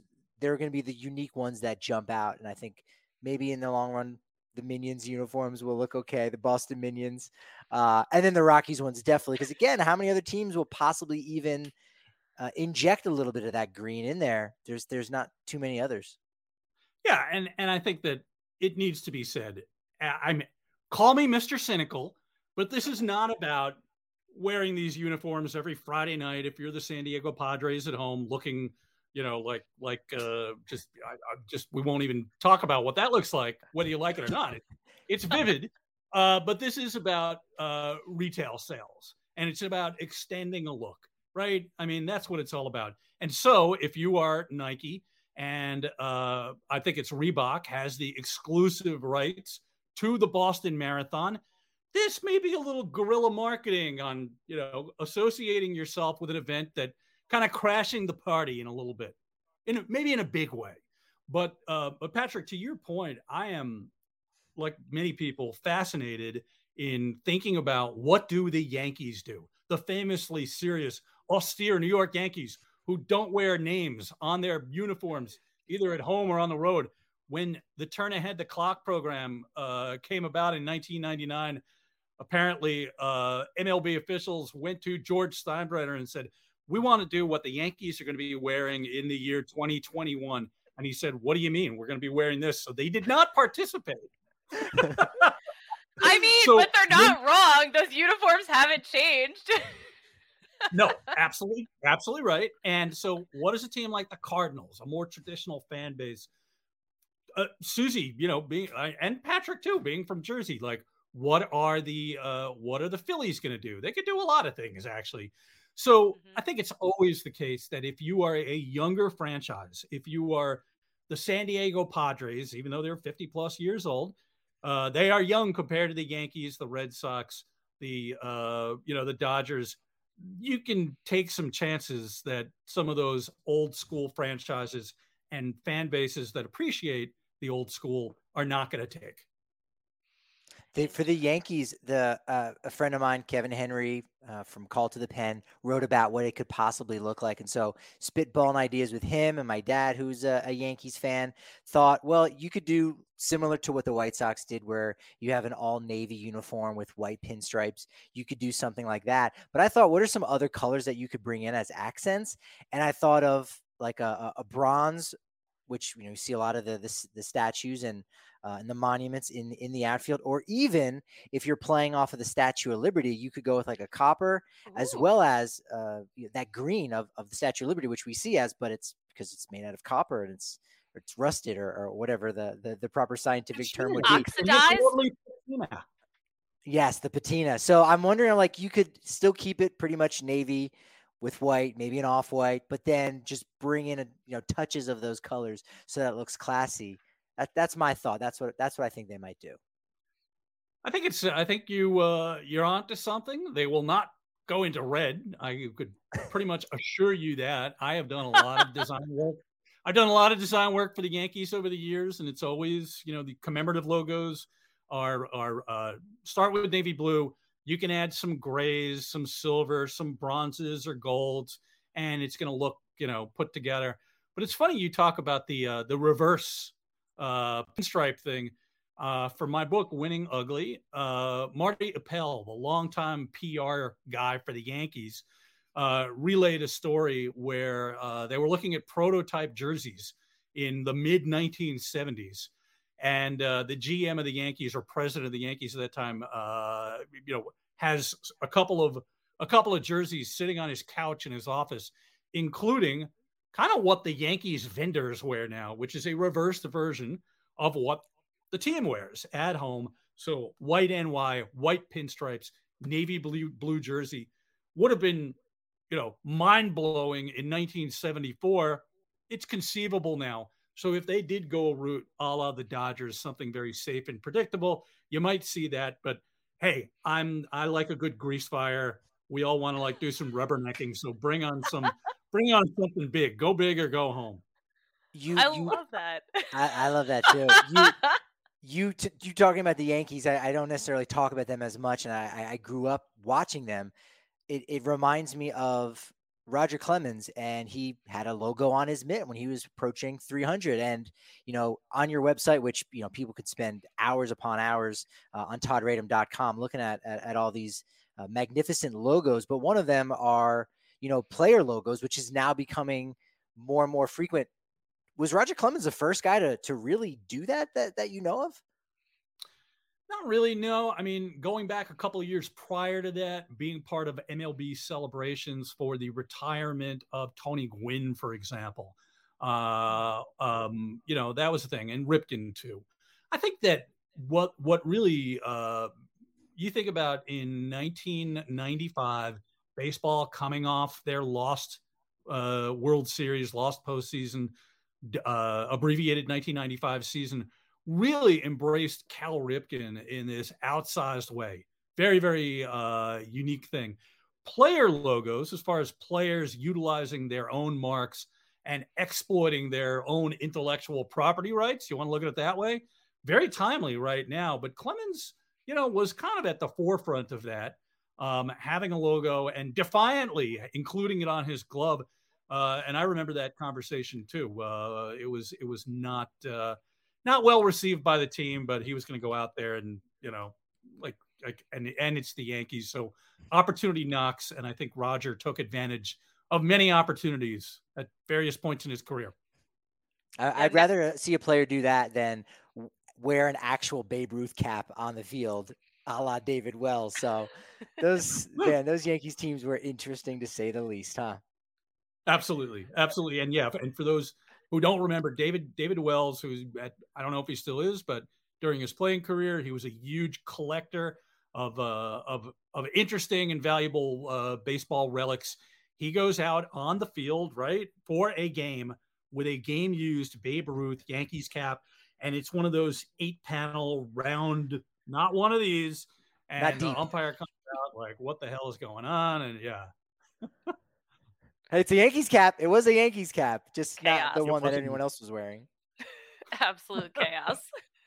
A: they're going to be the unique ones that jump out. And I think maybe in the long run, the Minions uniforms will look okay. The Boston Minions, uh, and then the Rockies ones definitely. Because again, how many other teams will possibly even uh, inject a little bit of that green in there? There's there's not too many others.
C: Yeah, and and I think that it needs to be said. I mean, call me Mister Cynical, but this is not about wearing these uniforms every Friday night if you're the San Diego Padres at home, looking, you know, like like uh, just I, I just we won't even talk about what that looks like, whether you like it or not. It, it's vivid, uh, but this is about uh, retail sales, and it's about extending a look, right? I mean, that's what it's all about. And so, if you are Nike, and uh, I think it's Reebok has the exclusive rights to the Boston Marathon, this may be a little guerrilla marketing on, you know, associating yourself with an event that kind of crashing the party in a little bit, in a, maybe in a big way. But, uh, but Patrick, to your point, I am, like many people, fascinated in thinking about what do the Yankees do? The famously serious, austere New York Yankees who don't wear names on their uniforms, either at home or on the road. When the Turn Ahead the Clock program uh, came about in nineteen ninety-nine, apparently uh, M L B officials went to George Steinbrenner and said, we want to do what the Yankees are going to be wearing in the year twenty twenty-one. And he said, what do you mean? We're going to be wearing this. So they did not participate.
B: I mean,
C: so,
B: but they're not when, wrong. Those uniforms haven't changed.
C: No, absolutely. Absolutely right. And so what does a team like the Cardinals, a more traditional fan base, uh, Susie, you know, being, uh, and Patrick too, being from Jersey, like, what are the, uh, what are the Phillies going to do? They could do a lot of things, actually. So mm-hmm. I think it's always the case that if you are a younger franchise, if you are the San Diego Padres, even though they're fifty plus years old, uh, they are young compared to the Yankees, the Red Sox, the, uh, you know, the Dodgers. You can take some chances that some of those old school franchises and fan bases that appreciate the old school are not going to take.
A: They, for the Yankees, the uh, a friend of mine, Kevin Henry, uh, from Call to the Pen, wrote about what it could possibly look like. And so spitballing ideas with him, and my dad, who's a, a Yankees fan, thought, well, you could do similar to what the White Sox did, where you have an all navy uniform with white pinstripes. You could do something like that. But I thought, what are some other colors that you could bring in as accents? And I thought of like a, a bronze, which, you know, you see a lot of the the, the statues and uh, and the monuments in in the outfield, or even if you're playing off of the Statue of Liberty, you could go with like a copper, Ooh. as well as uh, you know, that green of, of the Statue of Liberty, which we see as, but it's because it's made out of copper and it's or it's rusted or, or whatever the, the the proper scientific term would be.
B: Oxidized.
A: Yes, the patina. So I'm wondering, like, you could still keep it pretty much navy with white, maybe an off-white, but then just bring in a, you know, touches of those colors so that it looks classy. That, that's my thought. That's what that's what I think they might do.
C: I think it's. I think you uh, you're onto something. They will not go into red. I could pretty much assure you that. I have done a lot of design work. I've done a lot of design work for the Yankees over the years, and it's always, you know, the commemorative logos are are uh, start with navy blue. You can add some grays, some silver, some bronzes or golds, and it's going to look, you know, put together. But it's funny you talk about the uh, the reverse uh, pinstripe thing. Uh, for my book, Winning Ugly, uh, Marty Appel, the longtime P R guy for the Yankees, uh, relayed a story where uh, they were looking at prototype jerseys in the mid nineteen seventies. And uh, the G M of the Yankees, or president of the Yankees at that time, uh, you know, has a couple of a couple of jerseys sitting on his couch in his office, including kind of what the Yankees vendors wear now, which is a reversed version of what the team wears at home. So white N Y, white pinstripes, navy blue blue jersey would have been, you know, mind blowing in nineteen seventy-four. It's conceivable now. So if they did go a route a la the Dodgers, something very safe and predictable, you might see that. But hey, I'm I like a good grease fire. We all want to like do some rubbernecking. So bring on some, bring on something big. Go big or go home.
B: You, I you, love that.
A: I, I love that too. You, you, t- you talking about the Yankees? I, I don't necessarily talk about them as much, and I, I grew up watching them. It, it reminds me of Roger Clemens, and he had a logo on his mitt when he was approaching three hundred. And, you know, on your website, which, you know, people could spend hours upon hours uh, on todd radom dot com looking at, at, at all these uh, magnificent logos. But one of them are, you know, player logos, which is now becoming more and more frequent. Was Roger Clemens the first guy to, to really do that, that, that you know of?
C: Not really, no. I mean, going back a couple of years prior to that, being part of M L B celebrations for the retirement of Tony Gwynn, for example, uh, um, you know, that was the thing, and Ripken too. I think that what what really uh, you think about in nineteen ninety-five, baseball coming off their lost uh, World Series, lost postseason, uh, abbreviated nineteen ninety-five season, really embraced Cal Ripken in this outsized way. Very, very uh, unique thing. Player logos, as far as players utilizing their own marks and exploiting their own intellectual property rights, you want to look at it that way, very timely right now. But Clemens, you know, was kind of at the forefront of that, um, having a logo and defiantly including it on his glove. Uh, and I remember that conversation too. Uh, it was, it was not, uh, Not well received by the team, but he was going to go out there and, you know, like, like, and, and it's the Yankees. So opportunity knocks. And I think Roger took advantage of many opportunities at various points in his career.
A: I'd rather see a player do that than wear an actual Babe Ruth cap on the field, a la David Wells. So those, man, those Yankees teams were interesting to say the least, huh?
C: Absolutely. Absolutely. And yeah, and for those who don't remember, David David Wells, who's at, I don't know if he still is, but during his playing career, he was a huge collector of uh, of of interesting and valuable uh, baseball relics. He goes out on the field, right, for a game with a game-used Babe Ruth Yankees cap, and it's one of those eight-panel round, not one of these, and the umpire comes out like, "What the hell is going on?" And yeah.
A: It's a Yankees cap. It was a Yankees cap, just
B: chaos.
A: Not the one that anyone else was wearing.
B: Absolute chaos.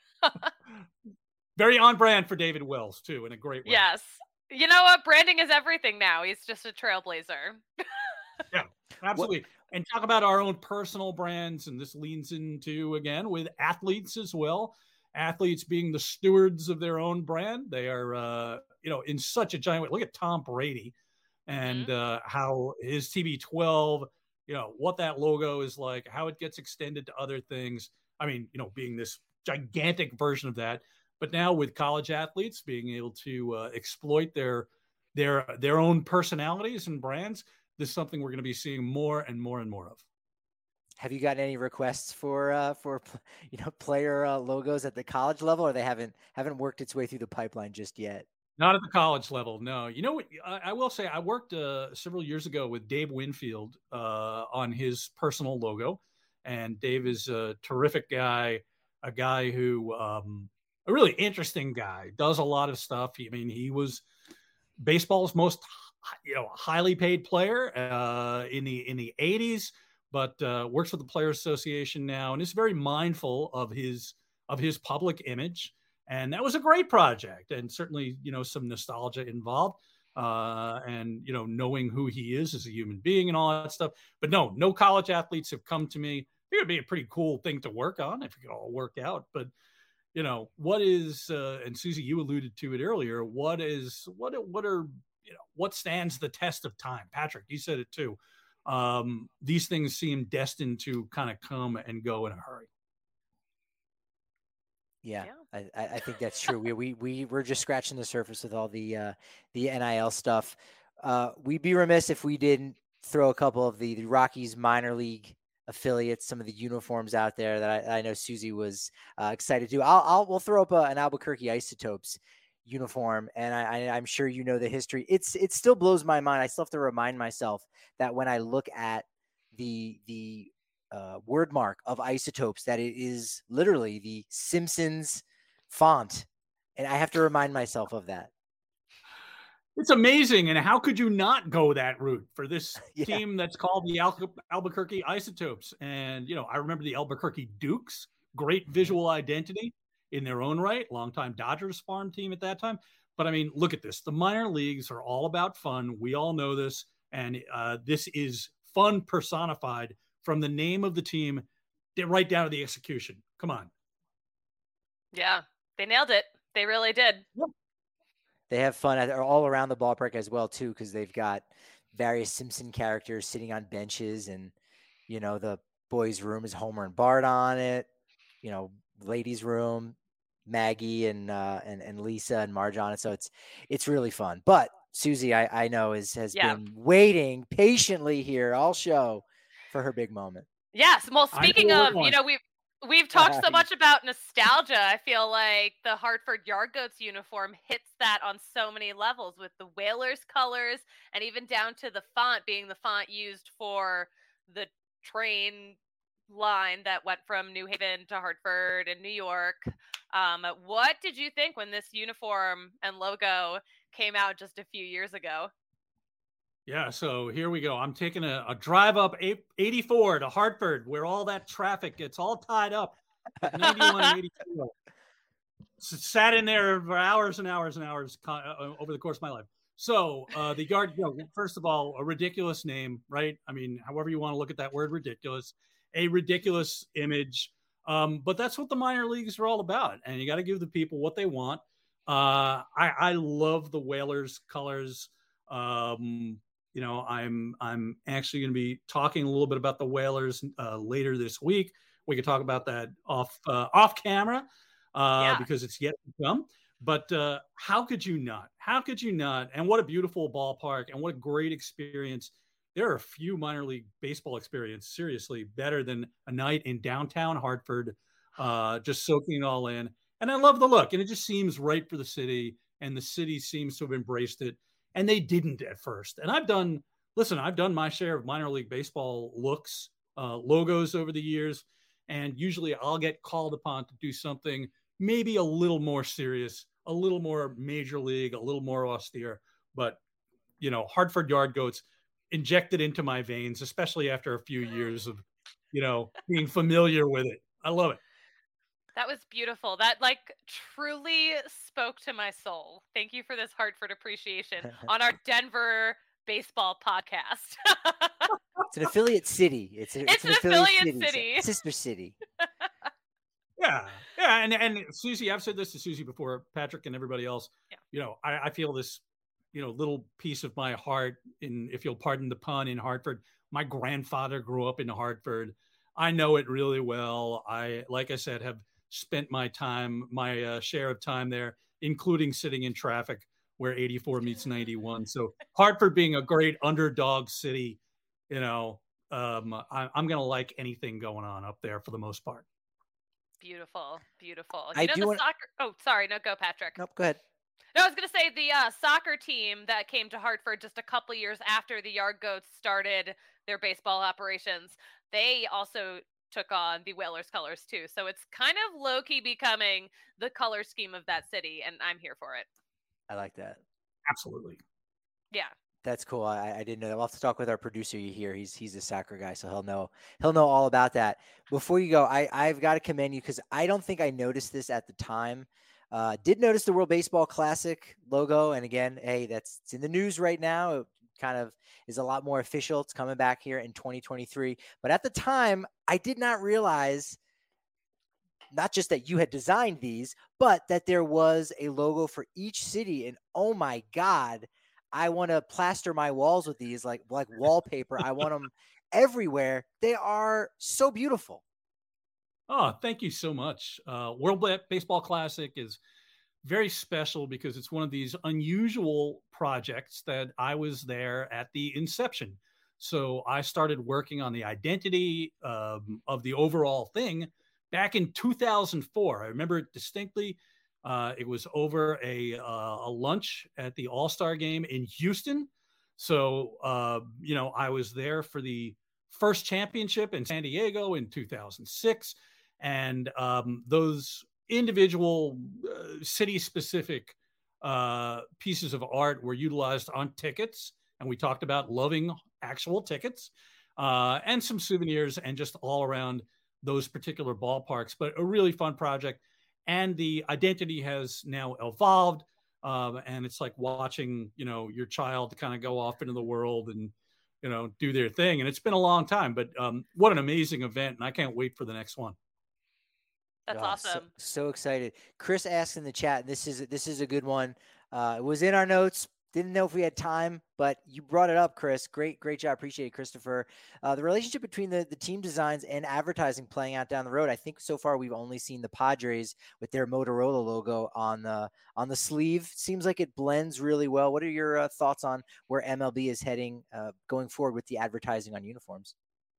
C: Very on brand for David Wells, too, in a great way.
B: Yes. You know what? Branding is everything now. He's just a trailblazer.
C: Yeah, absolutely. What? And talk about our own personal brands, and this leans into, again, with athletes as well. Athletes being the stewards of their own brand. They are, uh, you know, in such a giant way. Look at Tom Brady. And uh, how his T B twelve, you know, what that logo is like, how it gets extended to other things. I mean, you know, being this gigantic version of that, but now with college athletes being able to uh, exploit their their their own personalities and brands, this is something we're going to be seeing more and more and more of.
A: Have you gotten any requests for uh, for you know player uh, logos at the college level, or they haven't haven't worked its way through the pipeline just yet?
C: Not at the college level, no. You know what? I, I will say I worked uh, several years ago with Dave Winfield uh, on his personal logo, and Dave is a terrific guy, a guy who, um, a really interesting guy, does a lot of stuff. I mean, he was baseball's most, you know, highly paid player uh, in the in the eighties, but uh, works with the Players Association now, and is very mindful of his of his public image. And that was a great project, and certainly, you know, some nostalgia involved, uh, and, you know, knowing who he is as a human being and all that stuff. But no, no college athletes have come to me. It would be a pretty cool thing to work on if it could all work out. But, you know, what is, uh, and Susie, you alluded to it earlier, what is, what, what are, you know, what stands the test of time? Patrick, you said it too. Um, these things seem destined to kind of come and go in a hurry.
A: Yeah, yeah. I, I think that's true. we we we we're just scratching the surface with all the uh, the N I L stuff. Uh, we'd be remiss if we didn't throw a couple of the, the Rockies minor league affiliates, some of the uniforms out there that I, I know Susie was uh, excited to. I'll, I'll we'll throw up a, an Albuquerque Isotopes uniform, and I, I, I'm sure you know the history. It's it still blows my mind. I still have to remind myself that when I look at the the Uh, word mark of Isotopes, that it is literally the Simpsons font, and I have to remind myself of that.
C: It's amazing, and how could you not go that route for this yeah. team that's called the Al- Albuquerque Isotopes? And you know, I remember the Albuquerque Dukes, great visual identity in their own right, longtime Dodgers farm team at that time. But I mean, look at this. The minor leagues are all about fun. We all know this. And uh, this is fun personified from the name of the team right down to the execution. Come on.
B: Yeah, they nailed it. They really did.
C: Yep.
A: They have fun all around the ballpark as well, too, because they've got various Simpson characters sitting on benches, and, you know, the boys' room is Homer and Bart on it. You know, ladies' room, Maggie and uh, and and Lisa and Marge on it. So it's it's really fun. But Susie, I, I know, is has yeah. been waiting patiently here all show for her big moment.
B: Yes. Well, speaking of, you know, we've we've talked so much about nostalgia. I feel like the Hartford Yard Goats uniform hits that on so many levels, with the Whalers colors and even down to the font being the font used for the train line that went from New Haven to Hartford and New York. Um, what did you think when this uniform and logo came out just a few years ago?
C: Yeah, so here we go. I'm taking a, a drive up eighty-four to Hartford, where all that traffic gets all tied up. ninety-one and eighty-four. Sat in there for hours and hours and hours uh, over the course of my life. So uh, the yard, you know, first of all, a ridiculous name, right? I mean, however you want to look at that word, ridiculous. A ridiculous image. Um, but that's what the minor leagues are all about. And you got to give the people what they want. Uh, I, I love the Whalers colors. Um, you know, I'm I'm actually going to be talking a little bit about the Whalers uh, later this week. We could talk about that off uh, off camera uh, yeah. because it's yet to come. But uh, how could you not? How could you not? And what a beautiful ballpark, and what a great experience. There are a few minor league baseball experiences, seriously, better than a night in downtown Hartford, uh, just soaking it all in. And I love the look, and it just seems right for the city, and the city seems to have embraced it, and they didn't at first. And I've done, listen, I've done my share of minor league baseball looks, uh, logos over the years, and usually I'll get called upon to do something maybe a little more serious, a little more major league, a little more austere. But, you know, Hartford Yard Goats injected into my veins, especially after a few years of, you know, being familiar with it. I love it.
B: That was beautiful. That like truly spoke to my soul. Thank you for this Hartford appreciation on our Denver baseball podcast.
A: It's an affiliate city. It's, a,
B: it's,
A: it's
B: an, an affiliate, affiliate city.
A: city. Sister city.
C: Yeah. Yeah. And, and Susie, I've said this to Susie before, Patrick and everybody else, yeah. you know, I, I feel this, you know, little piece of my heart in, if you'll pardon the pun, in Hartford. My grandfather grew up in Hartford. I know it really well. I, like I said, have spent my time, my uh, share of time there, including sitting in traffic where eighty-four meets ninety-one. So Hartford being a great underdog city, you know, um, I, I'm going to like anything going on up there for the most part.
B: Beautiful. Beautiful. You
A: I
B: know,
A: do
B: the
A: want...
B: soccer. Oh, sorry. No, go Patrick.
A: Nope. Go ahead.
B: No, I was going to say the uh, soccer team that came to Hartford just a couple years after the Yard Goats started their baseball operations, they also took on the Whalers colors too. So it's kind of low-key becoming the color scheme of that city, and I'm here for it.
A: I like that.
C: Absolutely.
B: Yeah.
A: That's cool. I, I didn't know that. We'll have to talk with our producer here. He's he's a soccer guy, so he'll know he'll know all about that. Before you go, I, I've got to commend you because I don't think I noticed this at the time. Uh, did notice the World Baseball Classic logo. And again, hey, that's it's in the news right now. It kind of is a lot more official. It's coming back here in twenty twenty-three. But at the time, I did not realize not just that you had designed these, but that there was a logo for each city. And oh my God, I want to plaster my walls with these like, like wallpaper. I want them everywhere. They are so beautiful.
C: Oh, thank you so much. Uh, World Baseball Classic is very special because it's one of these unusual projects that I was there at the inception. So I started working on the identity um, of the overall thing back in two thousand four. I remember it distinctly. Uh, it was over a, uh, a lunch at the All-Star game in Houston. So, uh, you know, I was there for the first championship in San Diego in two thousand six. And um, those individual uh, city-specific uh, pieces of art were utilized on tickets. And we talked about loving actual tickets uh, and some souvenirs and just all around those particular ballparks. But a really fun project. And the identity has now evolved. Um, and it's like watching, you know, your child kind of go off into the world and, you know, do their thing. And it's been a long time, but um, what an amazing event. And I can't wait for the next one.
B: That's
A: oh,
B: awesome.
A: So, so excited. Chris asked in the chat, this is, this is a good one. Uh, it was in our notes. Didn't know if we had time, but you brought it up, Chris. Great, great job. Appreciate it, Christopher. Uh, the relationship between the, the team designs and advertising playing out down the road. I think so far we've only seen the Padres with their Motorola logo on the on the sleeve. Seems like it blends really well. What are your uh, thoughts on where M L B is heading uh, going forward with the advertising on uniforms?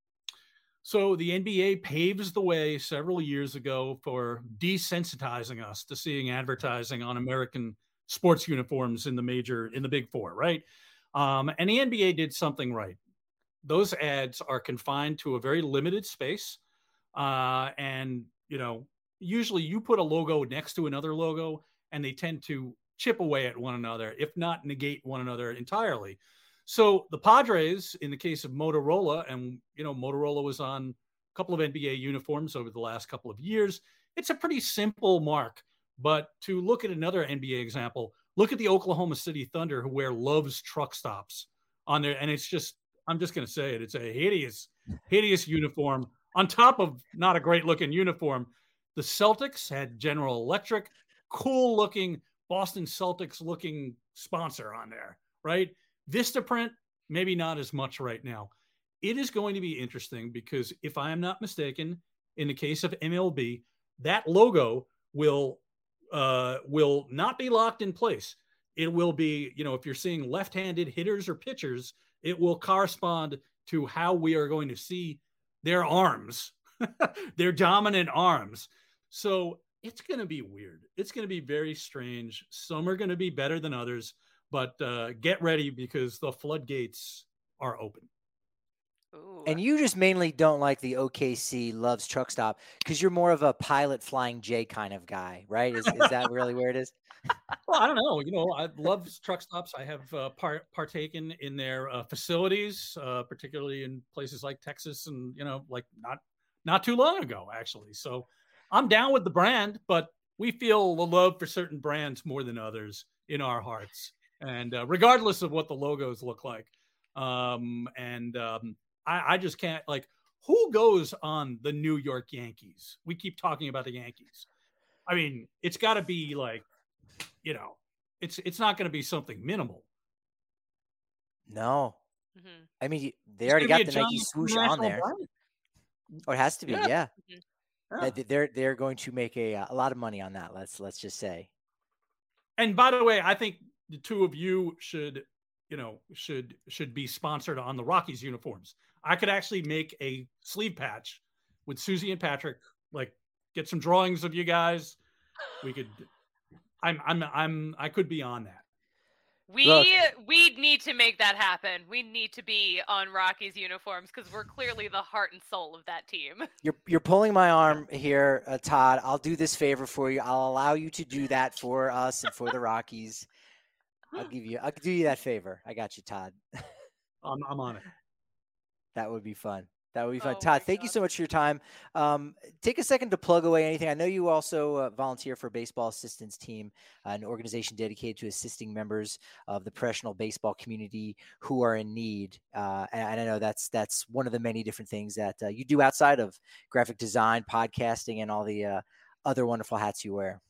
C: So the N B A paves the way several years ago for desensitizing us to seeing advertising on American sports uniforms in the major, in the big four, right? Um, and the N B A did something right. Those ads are confined to a very limited space. Uh, and, you know, usually you put a logo next to another logo and they tend to chip away at one another, if not negate one another entirely. So the Padres, in the case of Motorola, and, you know, Motorola was on a couple of N B A uniforms over the last couple of years. It's a pretty simple mark. But to look at another N B A example, look at the Oklahoma City Thunder, who wear Love's truck stops on there. And it's just, I'm just going to say it. It's a hideous, hideous uniform on top of not a great looking uniform. The Celtics had General Electric, cool looking Boston Celtics looking sponsor on there, right? Vistaprint, maybe not as much right now. It is going to be interesting because if I am not mistaken, in the case of M L B, that logo will uh, will not be locked in place. It will be, you know, if you're seeing left-handed hitters or pitchers, it will correspond to how we are going to see their arms, their dominant arms. So it's going to be weird. It's going to be very strange. Some are going to be better than others. But uh, get ready because the floodgates are open.
B: Ooh.
A: And you just mainly don't like the O K C Love's truck stop because you're more of a Pilot Flying J kind of guy, right? Is is that really where it is?
C: Well, I don't know. You know, I love truck stops. I have uh, par- partaken in their uh, facilities, uh, particularly in places like Texas, and you know, like not not too long ago, actually. So I'm down with the brand, but we feel the love for certain brands more than others in our hearts. And uh, regardless of what the logos look like. Um, and um, I, I just can't, like, who goes on the New York Yankees? We keep talking about the Yankees. I mean, it's got to be like, you know, it's it's not going to be something minimal.
A: No.
B: Mm-hmm.
A: I mean, they
C: It's
A: already got the
C: Nike
A: Nike swoosh on there.
C: Brand.
A: Oh, it has to be,
C: yeah.
A: yeah.
B: Mm-hmm.
A: yeah. They're they're going to make a a lot of money on that. Let's let's just say.
C: And by the way, I think the two of you should, you know, should should be sponsored on the Rockies uniforms. I could actually make a sleeve patch with Susie and Patrick. Like, get some drawings of you guys. We could. I'm I'm I'm I could be on that.
B: We Look, we need to make that happen. We need to be on Rockies uniforms because we're clearly the heart and soul of that team.
A: You're you're pulling my arm here, uh, Todd. I'll do this favor for you. I'll allow you to do that for us and for the Rockies. I'll give you. I'll do you that favor. I got you, Todd.
C: I'm I'm on it.
A: That would be fun. That would be fun.
B: Oh
A: Todd, thank
B: God.
A: you so much for your time. Um, take a second to plug away anything. I know you also uh, volunteer for Baseball Assistance Team, uh, an organization dedicated to assisting members of the professional baseball community who are in need. Uh, and, and I know that's that's one of the many different things that uh, you do outside of graphic design, podcasting, and all the uh, other wonderful hats you wear.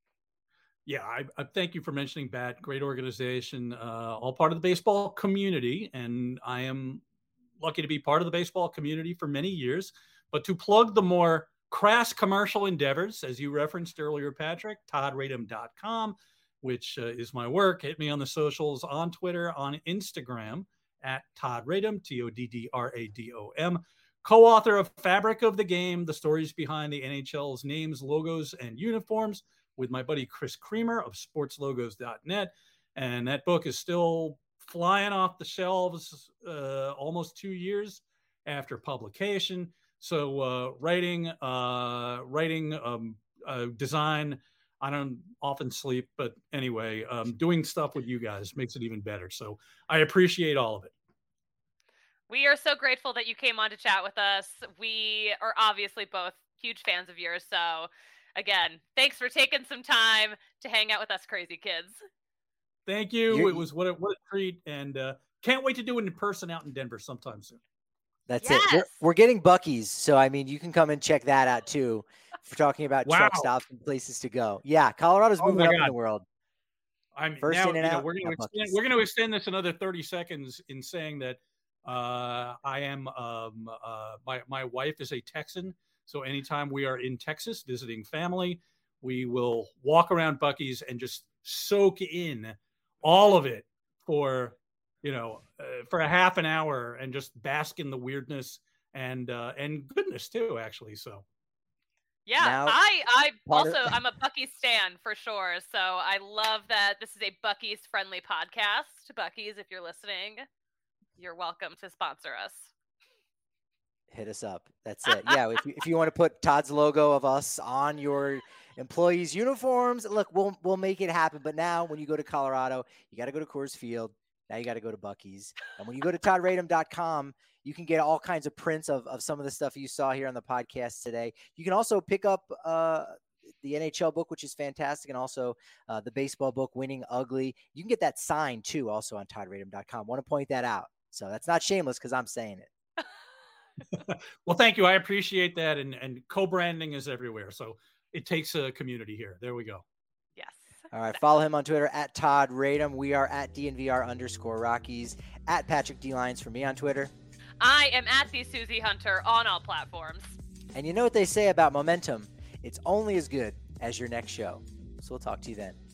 C: Yeah, I, I thank you for mentioning B A T. Great organization, uh, all part of the baseball community. And I am lucky to be part of the baseball community for many years, but to plug the more crass commercial endeavors, as you referenced earlier, Patrick, todd radom dot com, which uh, is my work. Hit me on the socials, on Twitter, on Instagram at Todd Radom, T O D D R A D O M, co-author of Fabric of the Game, the stories behind the N H L's names, logos, and uniforms, with my buddy Chris Creamer of sports logos dot net. And that book is still flying off the shelves uh, almost two years after publication. So uh, writing, uh, writing, um, uh, design, I don't often sleep, but anyway, um, doing stuff with you guys makes it even better. So I appreciate all of it.
B: We are so grateful that you came on to chat with us. We are obviously both huge fans of yours. So again, thanks for taking some time to hang out with us crazy kids.
C: Thank you. You're, it was what a, what a treat, and uh, can't wait to do it in person out in Denver sometime soon.
A: That's
B: yes.
A: it. We're, we're getting Buc-ee's, so I mean, you can come and check that out too. For talking about wow. truck stops and places to go. Yeah, Colorado's moving oh up God. in the world.
C: I'm First now, in and you know, out. We're going to extend, we're going to extend this another thirty seconds in saying that uh, I am um, uh, my my wife is a Texan, so anytime we are in Texas visiting family, we will walk around Buc-ee's and just soak in all of it for you know uh, for a half an hour and just bask in the weirdness and uh, and goodness too, actually. So.
B: Yeah, now, I I also of- I'm a Buc-ee's stan for sure. So I love that this is a Buc-ee's friendly podcast. Buc-ee's, if you're listening, you're welcome to sponsor us.
A: Hit us up. That's it. Yeah, if you, if you want to put Todd's logo of us on your employees' uniforms, look, we'll we'll make it happen. But now, when you go to Colorado, you got to go to Coors Field. Now you got to go to Buc-ee's. And when you go to todd radom dot com, you can get all kinds of prints of, of some of the stuff you saw here on the podcast today. You can also pick up uh, the N H L book, which is fantastic, and also uh, the baseball book, Winning Ugly. You can get that signed, too, also on todd radom dot com. Want to point that out. So that's not shameless because I'm saying it.
C: Well, thank you. I appreciate that. And, and co-branding is everywhere. So it takes a community here. There we go.
B: Yes.
A: All right. Follow him on Twitter at Todd Radom. We are at D N V R underscore Rockies, at Patrick D. Lyons for me on Twitter.
B: I am at the Susie Hunter on all platforms.
A: And you know what they say about momentum? It's only as good as your next show. So we'll talk to you then.